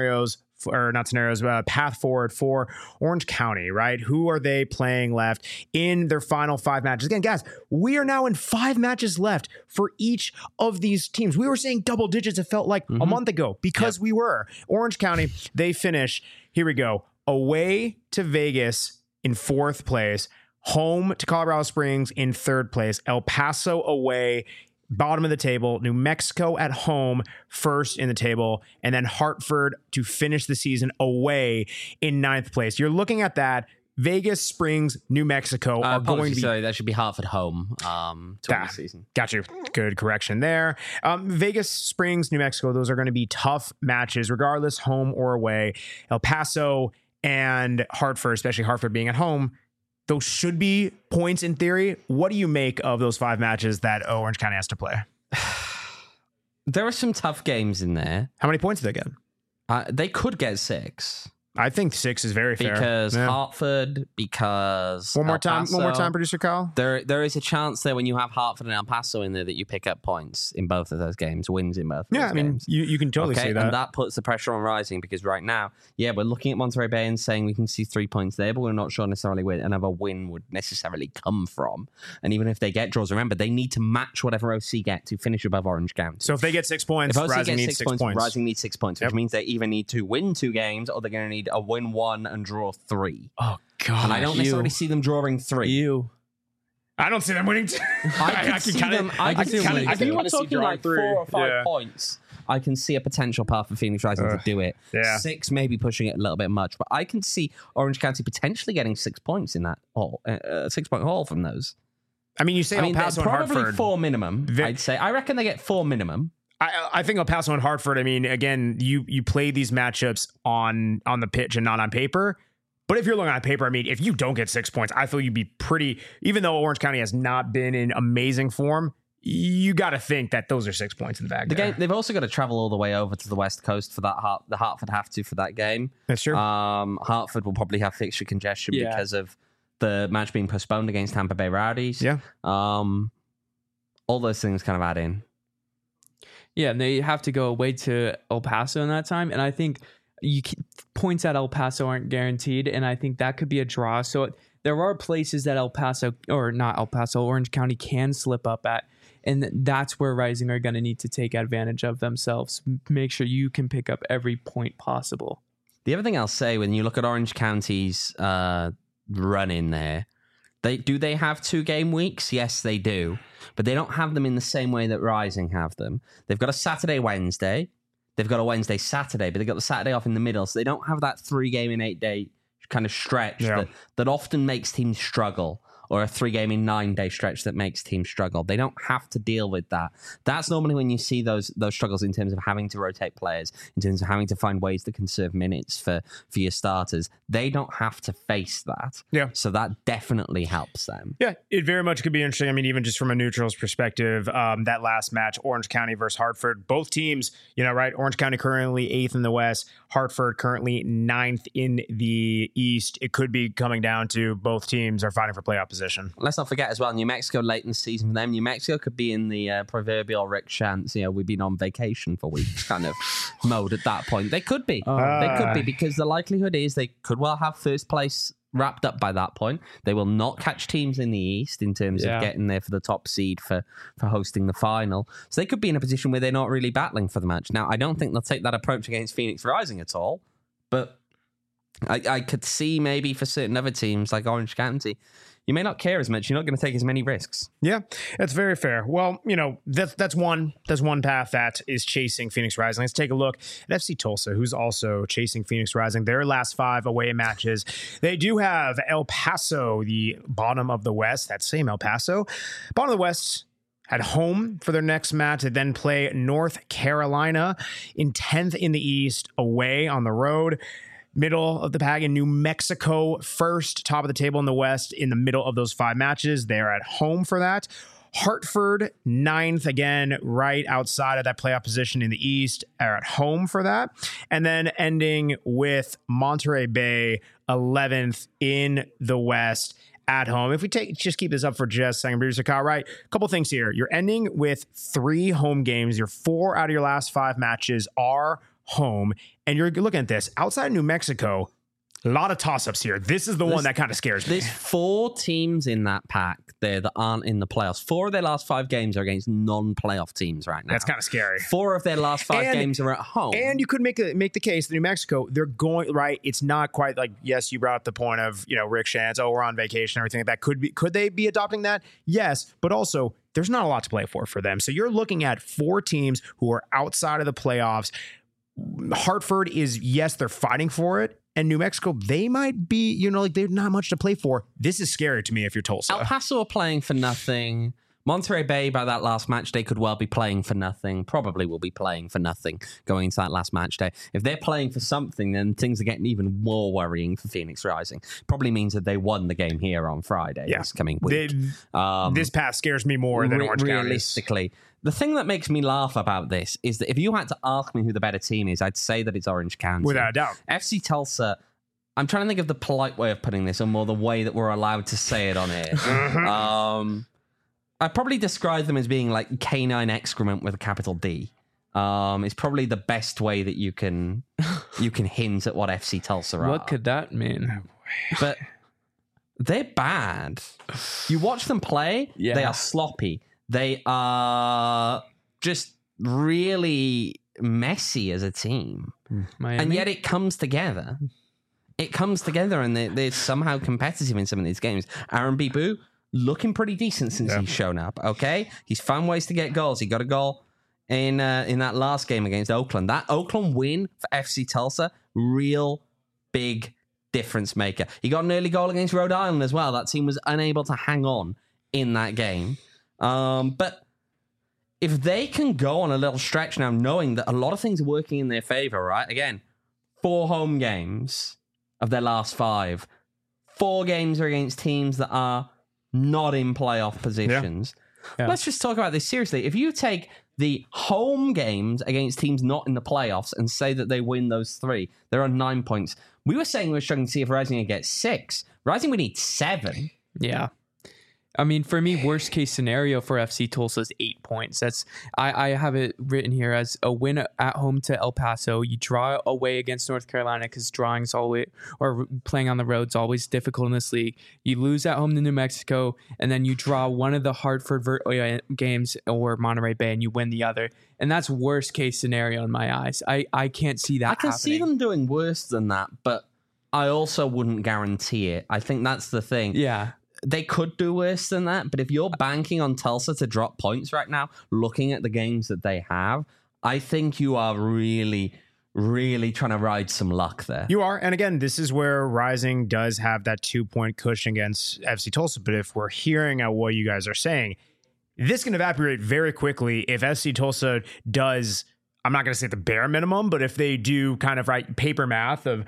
Path forward for Orange County, right? Who are they playing left in their final 5 matches? Again, guys, we are now in 5 matches left for each of these teams. We were saying double digits, it felt like a month ago, because we were. Orange County, they finish, here we go, away to Vegas in 4th place, home to Colorado Springs in 3rd place, El Paso away, bottom of the table, New Mexico at home, 1st in the table, and then Hartford to finish the season away in 9th place. You're looking at that. Vegas, Springs, New Mexico are going to be... Sorry, that should be Hartford home to win the season. Got you. Good correction there. Vegas, Springs, New Mexico, those are going to be tough matches, regardless, home or away. El Paso and Hartford, especially Hartford being at home, those should be points in theory. What do you make of those 5 matches that Orange County has to play? There are some tough games in there. How many points do they get? They could get 6. I think 6 is very fair. Because Hartford, because one more El time, Paso. producer Kyle. There is a chance there when you have Hartford and El Paso in there that you pick up points in both of those games, wins in both of those games. You can totally see that. And that puts the pressure on Rising because right now, we're looking at Monterey Bay and saying we can see 3 points there, but we're not sure necessarily where another win would necessarily come from. And even if they get draws, remember, they need to match whatever OC get to finish above Orange County. So if they get 6 points, Rising needs 6 points. Rising needs 6 points, which means they either need to win 2 games or they're going to need a win 1 and draw 3. Oh, God. And I don't necessarily see them drawing 3. I don't see them winning 2. I can see them. If you were talking like 4 or 5 points, I can see a potential path for Phoenix Rising to do it. 6 maybe pushing it a little bit much, but I can see Orange County potentially getting 6 points in that haul, 6 point haul from those. I mean, you say El Paso and probably Hartford. 4 minimum. I'd say. I reckon they get 4 minimum. I think El Paso and Hartford, I mean, again, you play these matchups on the pitch and not on paper. But if you're looking on paper, I mean, if you don't get 6 points, I feel you'd be pretty, even though Orange County has not been in amazing form, you got to think that those are 6 points in the bag. They've also got to travel all the way over to the West Coast for that. The Hartford have to for that game. That's true. Hartford will probably have fixture congestion because of the match being postponed against Tampa Bay Rowdies. Yeah. All those things kind of add in. Yeah, and they have to go away to El Paso in that time. And I think points at El Paso aren't guaranteed. And I think that could be a draw. So there are places that Orange County can slip up at. And that's where Rising are going to need to take advantage of themselves. Make sure you can pick up every point possible. The other thing I'll say, when you look at Orange County's run in there, they have 2 game weeks? Yes, they do. But they don't have them in the same way that Rising have them. They've got a Saturday, Wednesday. They've got a Wednesday, Saturday, but they've got the Saturday off in the middle. So they don't have that 3 game in 8 day kind of stretch that often makes teams struggle, or a 3 game in 9 day stretch that makes teams struggle. They don't have to deal with that. That's normally when you see those struggles in terms of having to rotate players, in terms of having to find ways to conserve minutes for your starters. They don't have to face that. Yeah. So that definitely helps them. Yeah, it very much could be interesting. I mean, even just from a neutral's perspective, that last match, Orange County versus Hartford, both teams, right? Orange County currently 8th in the West, Hartford currently 9th in the East. It could be coming down to both teams are fighting for playoff position. Let's not forget as well, New Mexico late in the season for them. New Mexico could be in the proverbial Rick Shantz, we've been on vacation for weeks kind of mode at that point. They could be. They could be, because the likelihood is they could well have first place wrapped up by that point. They will not catch teams in the East in terms of getting there for the top seed for hosting the final. So they could be in a position where they're not really battling for the match. Now, I don't think they'll take that approach against Phoenix Rising at all, but I could see maybe for certain other teams like Orange County, you may not care as much. You're not going to take as many risks. Yeah, that's very fair. Well, that's one path that is chasing Phoenix Rising. Let's take a look at FC Tulsa, who's also chasing Phoenix Rising. Their last 5 away matches. They do have El Paso, the bottom of the West. That same El Paso. Bottom of the West at home for their next match. They then play North Carolina in 10th in the East, away on the road. Middle of the pack in New Mexico, first, top of the table in the West, in the middle of those 5 matches. They're at home for that. Hartford, 9th, again, right outside of that playoff position in the East, are at home for that. And then ending with Monterey Bay, 11th in the West, at home. If we just keep this up for just a second, producer Kyle, right? A couple things here. You're ending with 3 home games. Your 4 out of your last 5 matches are home, and you're looking at this outside New Mexico. A lot of toss-ups here. This is the one that kind of scares me. There's 4 teams in that pack there that aren't in the playoffs. 4 of their last 5 games are against non-playoff teams right now. That's kind of scary. 4 of their last 5 games are at home. And you could make the case that New Mexico, they're going, right, it's not quite like, yes, you brought up the point of, Rick Shantz, we're on vacation, everything like that. Could they be adopting that? Yes, but also there's not a lot to play for them. So you're looking at 4 teams who are outside of the playoffs. Hartford is, yes, they're fighting for it. And New Mexico, they might be, there's not much to play for. This is scary to me if you're Tulsa. El Paso are playing for nothing. Monterey Bay, by that last match day, could well be playing for nothing. Probably will be playing for nothing going into that last match day. If they're playing for something, then things are getting even more worrying for Phoenix Rising. Probably means that they won the game here on Friday this coming week. This path scares me more than Orange County. Realistically. The thing that makes me laugh about this is that if you had to ask me who the better team is, I'd say that it's Orange County. Without a doubt. FC Tulsa, I'm trying to think of the polite way of putting this, or more the way that we're allowed to say it on here. I'd probably describe them as being like canine excrement with a capital D. It's probably the best way that you can hint at what FC Tulsa are. What could that mean? But they're bad. You watch them play, they are sloppy. They are just really messy as a team. Miami? And yet it comes together. It comes together, and they're somehow competitive in some of these games. Aaron Bibu, looking pretty decent since he's shown up, okay? He's found ways to get goals. He got a goal in that last game against Oakland. That Oakland win for FC Tulsa, real big difference maker. He got an early goal against Rhode Island as well. That team was unable to hang on in that game. But if they can go on a little stretch now, knowing that a lot of things are working in their favor, right? Again, 4 home games of their last 5. 4 games are against teams that are not in playoff positions. Yeah. Let's just talk about this seriously. If you take the home games against teams not in the playoffs and say that they win those 3, they're on 9 points. We were saying we were struggling to see if Rising would get 6. Rising would need 7. Yeah. I mean, for me, worst case scenario for FC Tulsa is 8 points. That's I have it written here as a win at home to El Paso. You draw away against North Carolina because drawing's always, or playing on the road's always difficult in this league. You lose at home to New Mexico, and then you draw one of the Hartford games or Monterey Bay, and you win the other. And that's worst case scenario in my eyes. I can't see that. I can see them doing worse than that, but I also wouldn't guarantee it. I think that's the thing. Yeah. They could do worse than that, but if you're banking on Tulsa to drop points right now, looking at the games that they have, I think you are really, really trying to ride some luck there. You are. And again, this is where Rising does have that 2-point cushion against FC Tulsa. But if we're hearing at what you guys are saying, this can evaporate very quickly if FC Tulsa does, I'm not going to say the bare minimum, but if they do kind of paper math on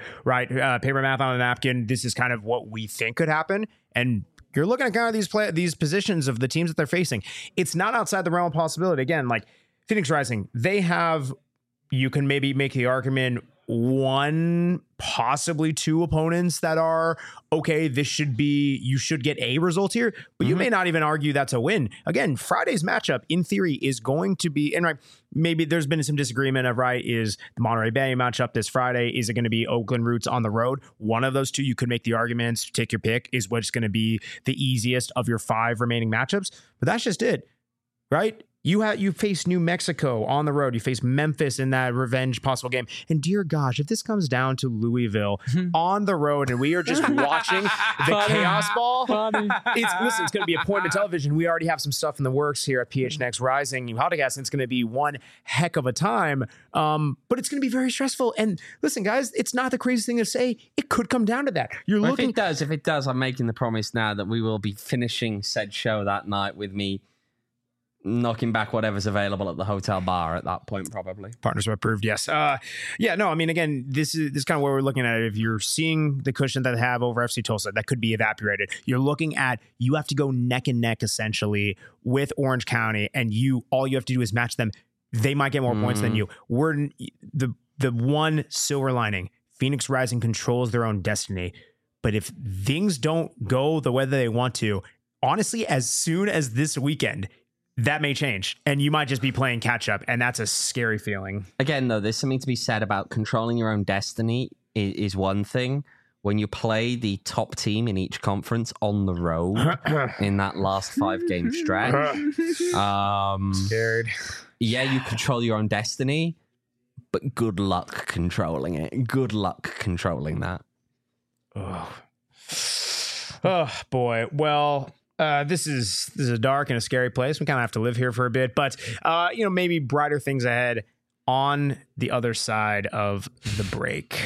a napkin, this is kind of what we think could happen. And you're looking at kind of these positions of the teams that they're facing. It's not outside the realm of possibility. Again, like Phoenix Rising, they have, you can maybe make the argument, 1, possibly 2 opponents that are, okay, you should get a result here, but you may not even argue that's a win. Again, Friday's matchup, in theory, is going to be, and maybe there's been some disagreement of, is the Monterey Bay matchup this Friday, is it going to be Oakland Roots on the road? One of those 2, you could make the arguments, take your pick, is what's going to be the easiest of your 5 remaining matchups, but that's just it, right? You face New Mexico on the road. You face Memphis in that revenge possible game. And dear gosh, if this comes down to Louisville on the road and we are just watching the chaos ball, it's going to be appointment television. We already have some stuff in the works here at PHNX Rising podcast, and it's going to be one heck of a time. But it's going to be very stressful. And listen, guys, it's not the craziest thing to say. It could come down to that. If it does, I'm making the promise now that we will be finishing said show that night with me knocking back whatever's available at the hotel bar at that point, probably. Partners are approved, yes. Again, this is kind of where we're looking at it. If you're seeing the cushion that they have over FC Tulsa, that could be evaporated. You're looking at, you have to go neck and neck, essentially, with Orange County, and all you have to do is match them. They might get more points than you. We're the one silver lining. Phoenix Rising controls their own destiny. But if things don't go the way that they want to, honestly, as soon as this weekend, that may change, and you might just be playing catch up, and that's a scary feeling. Again, though, there's something to be said about controlling your own destiny is one thing. When you play the top team in each conference on the road in that last 5-game stretch, Scared. Yeah, you control your own destiny, but good luck controlling it. Good luck controlling that. Oh boy. Well, this is a dark and a scary place. We kind of have to live here for a bit, but maybe brighter things ahead on the other side of the break.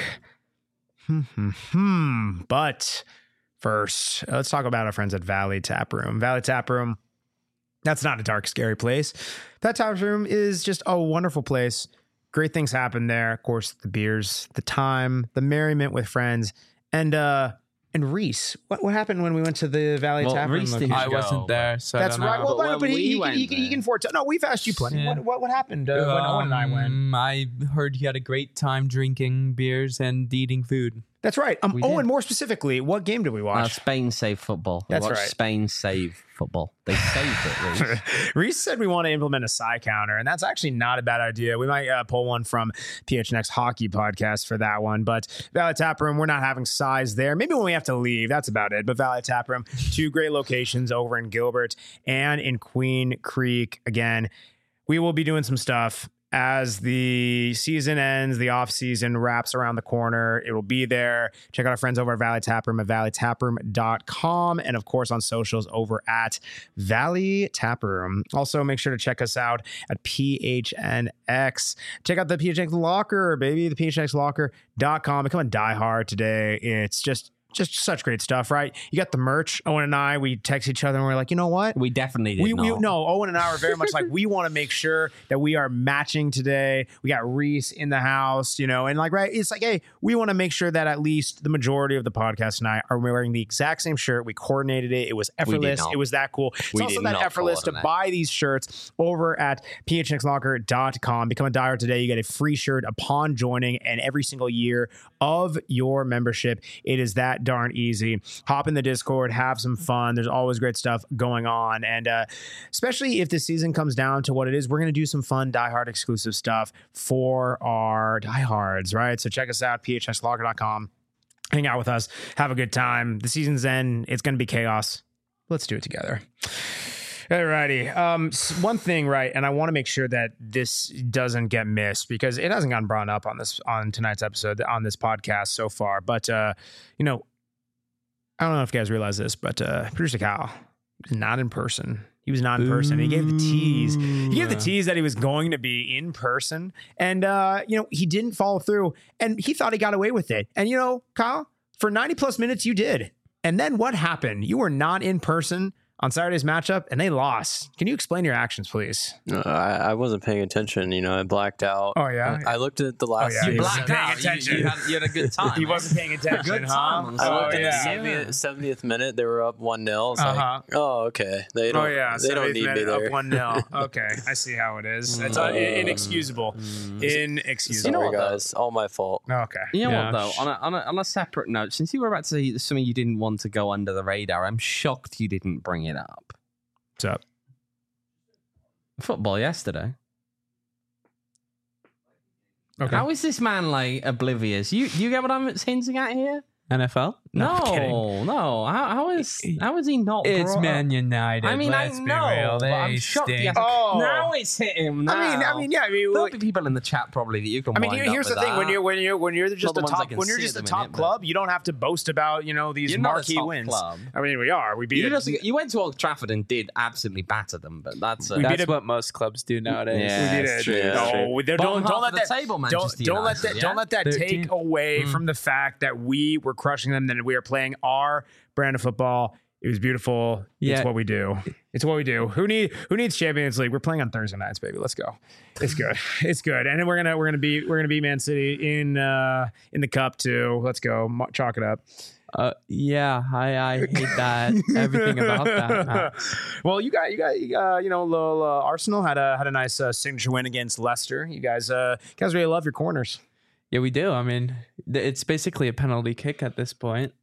But first, let's talk about our friends at Valley Tap Room. Valley Tap Room, that's not a dark, scary place. That tap room is just a wonderful place. Great things happen there. Of course, the beers, the time, the merriment with friends, and Reese, what happened when we went to the Valley Tap Room? Reese I wasn't there, so that's right. Know. Well, but he can foretell. No, we've asked you plenty. Yeah. What happened when Owen and I went? I heard he had a great time drinking beers and eating food. That's right. Owen, more specifically, what game did we watch? Spain save football. That's right. Spain save football. They saved it, Reese. Reese said we want to implement a side counter, and that's actually not a bad idea. We might pull one from PHNX Hockey Podcast for that one. But Valley Tap Room, we're not having size there. Maybe when we have to leave, that's about it. But Valley Tap Room, 2 great locations over in Gilbert and in Queen Creek. Again, we will be doing some stuff as the season ends, the off season wraps around the corner. It will be there. Check out our friends over at Valley Tap Room at valleytaproom.com. And of course on socials over at Valley Tap Room. Also make sure to check us out at PHNX. Check out the PHNX Locker, baby, the PHNXLocker.com. Become a diehard today. It's just just such great stuff, right? You got the merch. Owen and I, we text each other and we're like, you know what? We definitely did not. No, Owen and I are very much like, we want to make sure that we are matching today. We got Reese in the house, you know, and like, right, it's like, hey, we want to make sure that at least the majority of the podcast tonight are wearing the exact same shirt. We coordinated it. It was effortless. It was that cool. It's also that effortless to buy these shirts over at phnxlocker.com. Become a diehard today. You get a free shirt upon joining, and every single year of your membership, it is that darn easy. Hop in the Discord, have some fun. There's always great stuff going on. And especially if the season comes down to what it is, we're going to do some fun diehard exclusive stuff for our diehards, right? So check us out, phnxlocker.com. Hang out with us. Have a good time. The season's end. It's going to be chaos. Let's do it together. Alrighty. One thing, right, and I want to make sure that this doesn't get missed because it hasn't gotten brought up on tonight's episode on this podcast so far. But you know, I don't know if you guys realize this, but producer Kyle was not in person. He was not in person. He gave the tease. He gave the tease that he was going to be in person, and you know, he didn't follow through. And he thought he got away with it. And you know, Kyle, for 90 plus minutes, you did. And then what happened? You were not in person on Saturday's matchup, and they lost. Can you explain your actions, please? I wasn't paying attention. You know, I blacked out. Oh, yeah? I looked at the last. Oh, yeah. You blacked out. Attention. You had a good time. He wasn't paying attention. Good time. I looked at the 70th minute. They were up 1-0. It's like, oh, okay. They don't. They don't need me there. Up 1-0. Okay, I see how it is. It's inexcusable. Inexcusable. You know what, guys? All my fault. Okay. You know what, though? On a separate note, since you were about to say something you didn't want to go under the radar, I'm shocked you didn't bring it up. What's up? Football yesterday. Okay. How is this man like oblivious? You get what I'm hinting at here? NFL? No. How is he not? It's Man United. I mean, let's I know, be real. but I'm They shocked. stink. Now it's hit him. Now. I mean, yeah. There'll be people in the chat probably that you can. Here's the thing: when you're just the a ones I top can when you're see just a at the top minute, club, you don't have to boast about these You're not a marquee top wins. club. I mean, we are. We beat you went to Old Trafford and did absolutely batter them, but that's That's what most clubs do nowadays. Yeah, we did it's it. true. Don't let that table, don't let that take away from the fact that we were crushing them. Then we are playing our brand of football. It was beautiful. Yeah. It's what we do. It's what we do. Who needs Champions League? We're playing on Thursday nights, baby. Let's go. It's good. It's good. And then we're gonna beat Man City in the cup too. Let's go. Chalk it up. Yeah, I hate that. Everything about that. Well, you got Arsenal had a nice signature win against Leicester. You guys really love your corners. Yeah, we do. I mean, it's basically a penalty kick at this point.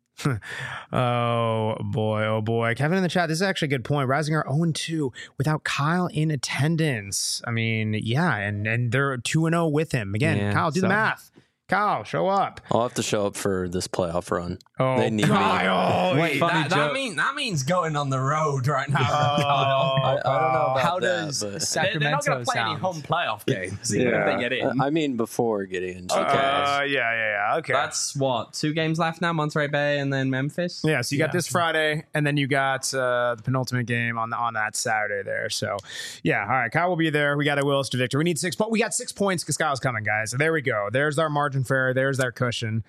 Oh boy. Kevin in the chat, this is actually a good point. Risinger 0-2 without Kyle in attendance. I mean, yeah, and they're 2-0 with him. Again, Yeah, Kyle, do the math. Kyle, show up. I'll have to show up for this playoff run. Oh, they need Kyle. me. Wait, that means going on the road right now. I don't know about How that, does but Sacramento They're not going to play any sound? home playoff games even if they get in. I mean, before getting into Yeah. Okay. That's what, 2 games left now, Monterey Bay and then Memphis? Yeah, so you got this Friday, and then you got the penultimate game on that Saturday there. So, yeah, all right, Kyle will be there. We got a Willis to victor. We need 6 points. We got 6 points because Kyle's coming, guys. So there we go. There's our margin fair. There's our cushion.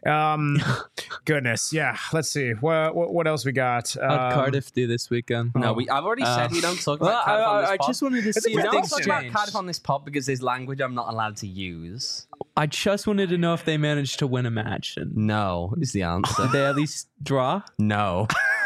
Goodness, yeah. Let's see what else we got. How'd Cardiff do this weekend? No, I've already said we don't talk about Cardiff on this I pod. just wanted to see We if don't things talk about changed. Cardiff on this pod because there's language I'm not allowed to use. I just wanted to know if they managed to win a match. And No is the answer. did they at least draw? No.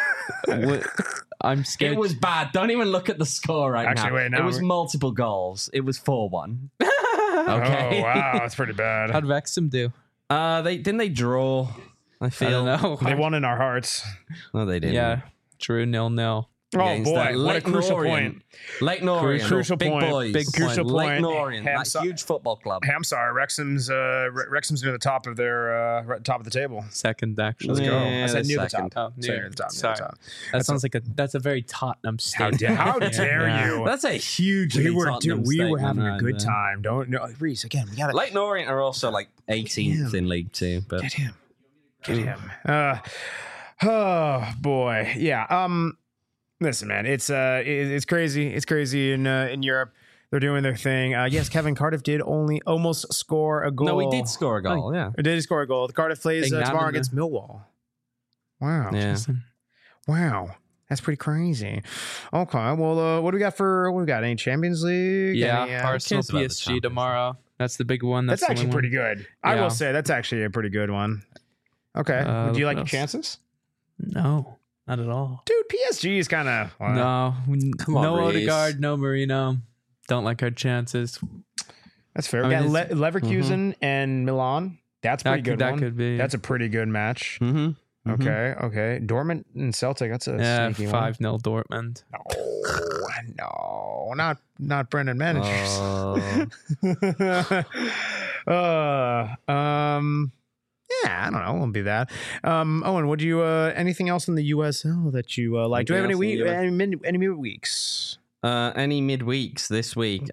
I'm scared. It was bad. Don't even look at the score right Actually, now. wait, no, it was we're- multiple goals. It was 4-1. Okay. Oh wow, that's pretty bad. How'd Wrexham do? They draw. I I feel. don't know. They won in our hearts. No, they didn't. Yeah, Drew 0-0. Oh Against boy, that what a Lake crucial Norient. point. Lake Norient. Crucial big point. boys. Big crucial Lake point. Norient. Hey, I'm That so- huge football club. Hey, I'm sorry, Wrexham's near the top of their top of the table. Second, actually. Let's go. I Yeah, said the near the second. top. Oh, Sorry, near. near the top. Sorry. Near the top. That sounds like that's a very Tottenham How statement. dare you? That's a huge. We were having a good time. Don't no, Reese again. We got to Lake Norient are also like 18th in League Two, but get him. Oh boy, yeah. Listen, man, it's crazy. It's crazy in Europe. They're doing their thing. Yes, Kevin, Cardiff did almost score a goal. no, we did score a goal. Yeah, Or did he score a goal? Cardiff plays tomorrow Ignaman, against Millwall. Wow. Yeah. Wow. That's pretty crazy. Okay. Well, what do we got? Any Champions League? Yeah, Any, Arsenal cares about the PSG Champions tomorrow. That's the big one. That's the actually only pretty one. good. I Yeah. will say that's actually a pretty good one. Okay. Do you like your chances? No, not at all. Dude, PSG is kind of... No, Come on, no Reece. Odegaard, no Marino. Don't like our chances. That's fair. I We mean, got Leverkusen and Milan. That's a pretty good That one. could be. That's a pretty good match. Mm-hmm. Okay. Dortmund and Celtic. That's a sneaky 5-0 Dortmund. one. No, not Brendan Manage. Yeah, I don't know. It won't be that. Owen, would you anything else in the USL that you like? Do we have any midweeks? Any midweeks this week?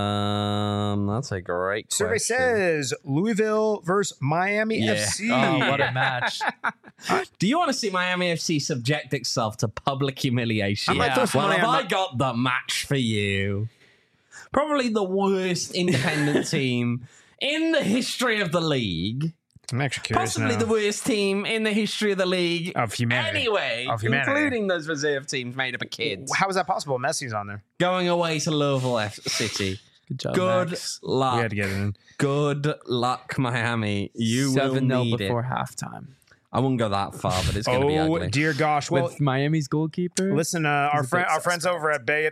That's a great Survey question. says Louisville versus Miami Yeah. FC. Oh, what a match. Do you want to see Miami FC subject itself to public humiliation? I might throw some Well, money have on I got the match for you? Probably the worst independent team in the history of the league. I'm actually curious Possibly now. the worst team in the history of the league. Of humanity. Anyway, Of humanity. including those reserve teams made up of kids. How is that possible? Messi's on there. Going away to Louisville City. Good job, Good Max. We luck. had to get it in. Good luck, Miami. You will 7-0 need before it. halftime. I wouldn't go that far, but it's going to be Oh ugly. dear gosh! Well, With Miami's goalkeeper. listen, He's our a bit friends over at Bed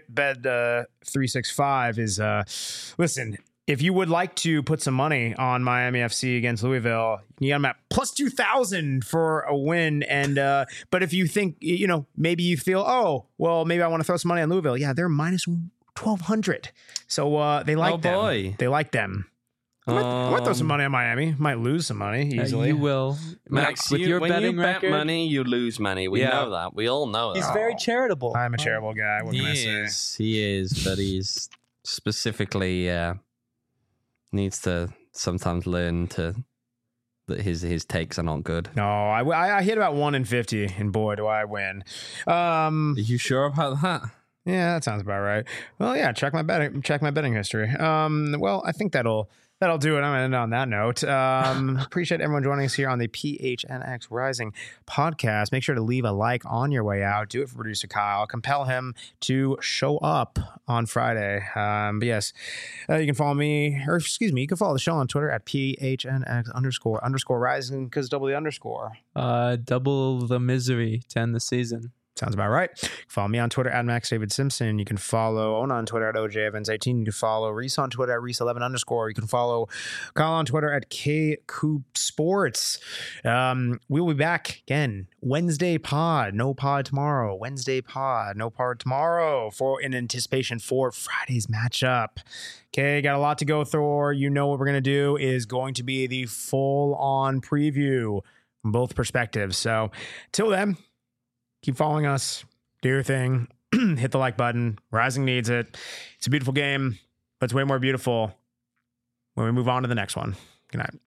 365 is listen. If you would like to put some money on Miami FC against Louisville, you got them at plus 2,000 for a win. And but if you think maybe you feel maybe I want to throw some money on Louisville, yeah, they're minus 1,200. So they like them. Boy. They like them. I might throw some money on Miami. Might lose some money easily. You will. Max, with your when betting you bet record. money, you lose money. We Yeah. know that. We all know that. He's very charitable. I'm a charitable guy. What can I say? He is, but he's specifically needs to sometimes learn that his takes are not good. No, I hit about 1 in 50, and boy, do I win. Are you sure about that? Yeah, that sounds about right. Well, yeah, check my betting history. Well, I think that'll do it. I'm going to end on that note. Appreciate everyone joining us here on the PHNX Rising podcast. Make sure to leave a like on your way out. Do it for producer Kyle. Compel him to show up on Friday. But yes, you can follow me, you can follow the show on Twitter at PHNX__rising because double the underscore. Double the misery to end the season. Sounds about right. You can follow me on Twitter at Max David Simpson. You can follow Ona on Twitter at OJEvans18. You can follow Reese on Twitter at Reese11_. You can follow Kyle on Twitter at KCoopSports. We will be back again Wednesday pod. No pod tomorrow. Wednesday pod. No pod tomorrow in anticipation for Friday's matchup. Okay, got a lot to go through. You know what we're going to do is going to be the full-on preview from both perspectives. So, till then, keep following us. Do your thing. Hit the like button. Rising needs it. It's a beautiful game, but it's way more beautiful when we move on to the next one. Good night.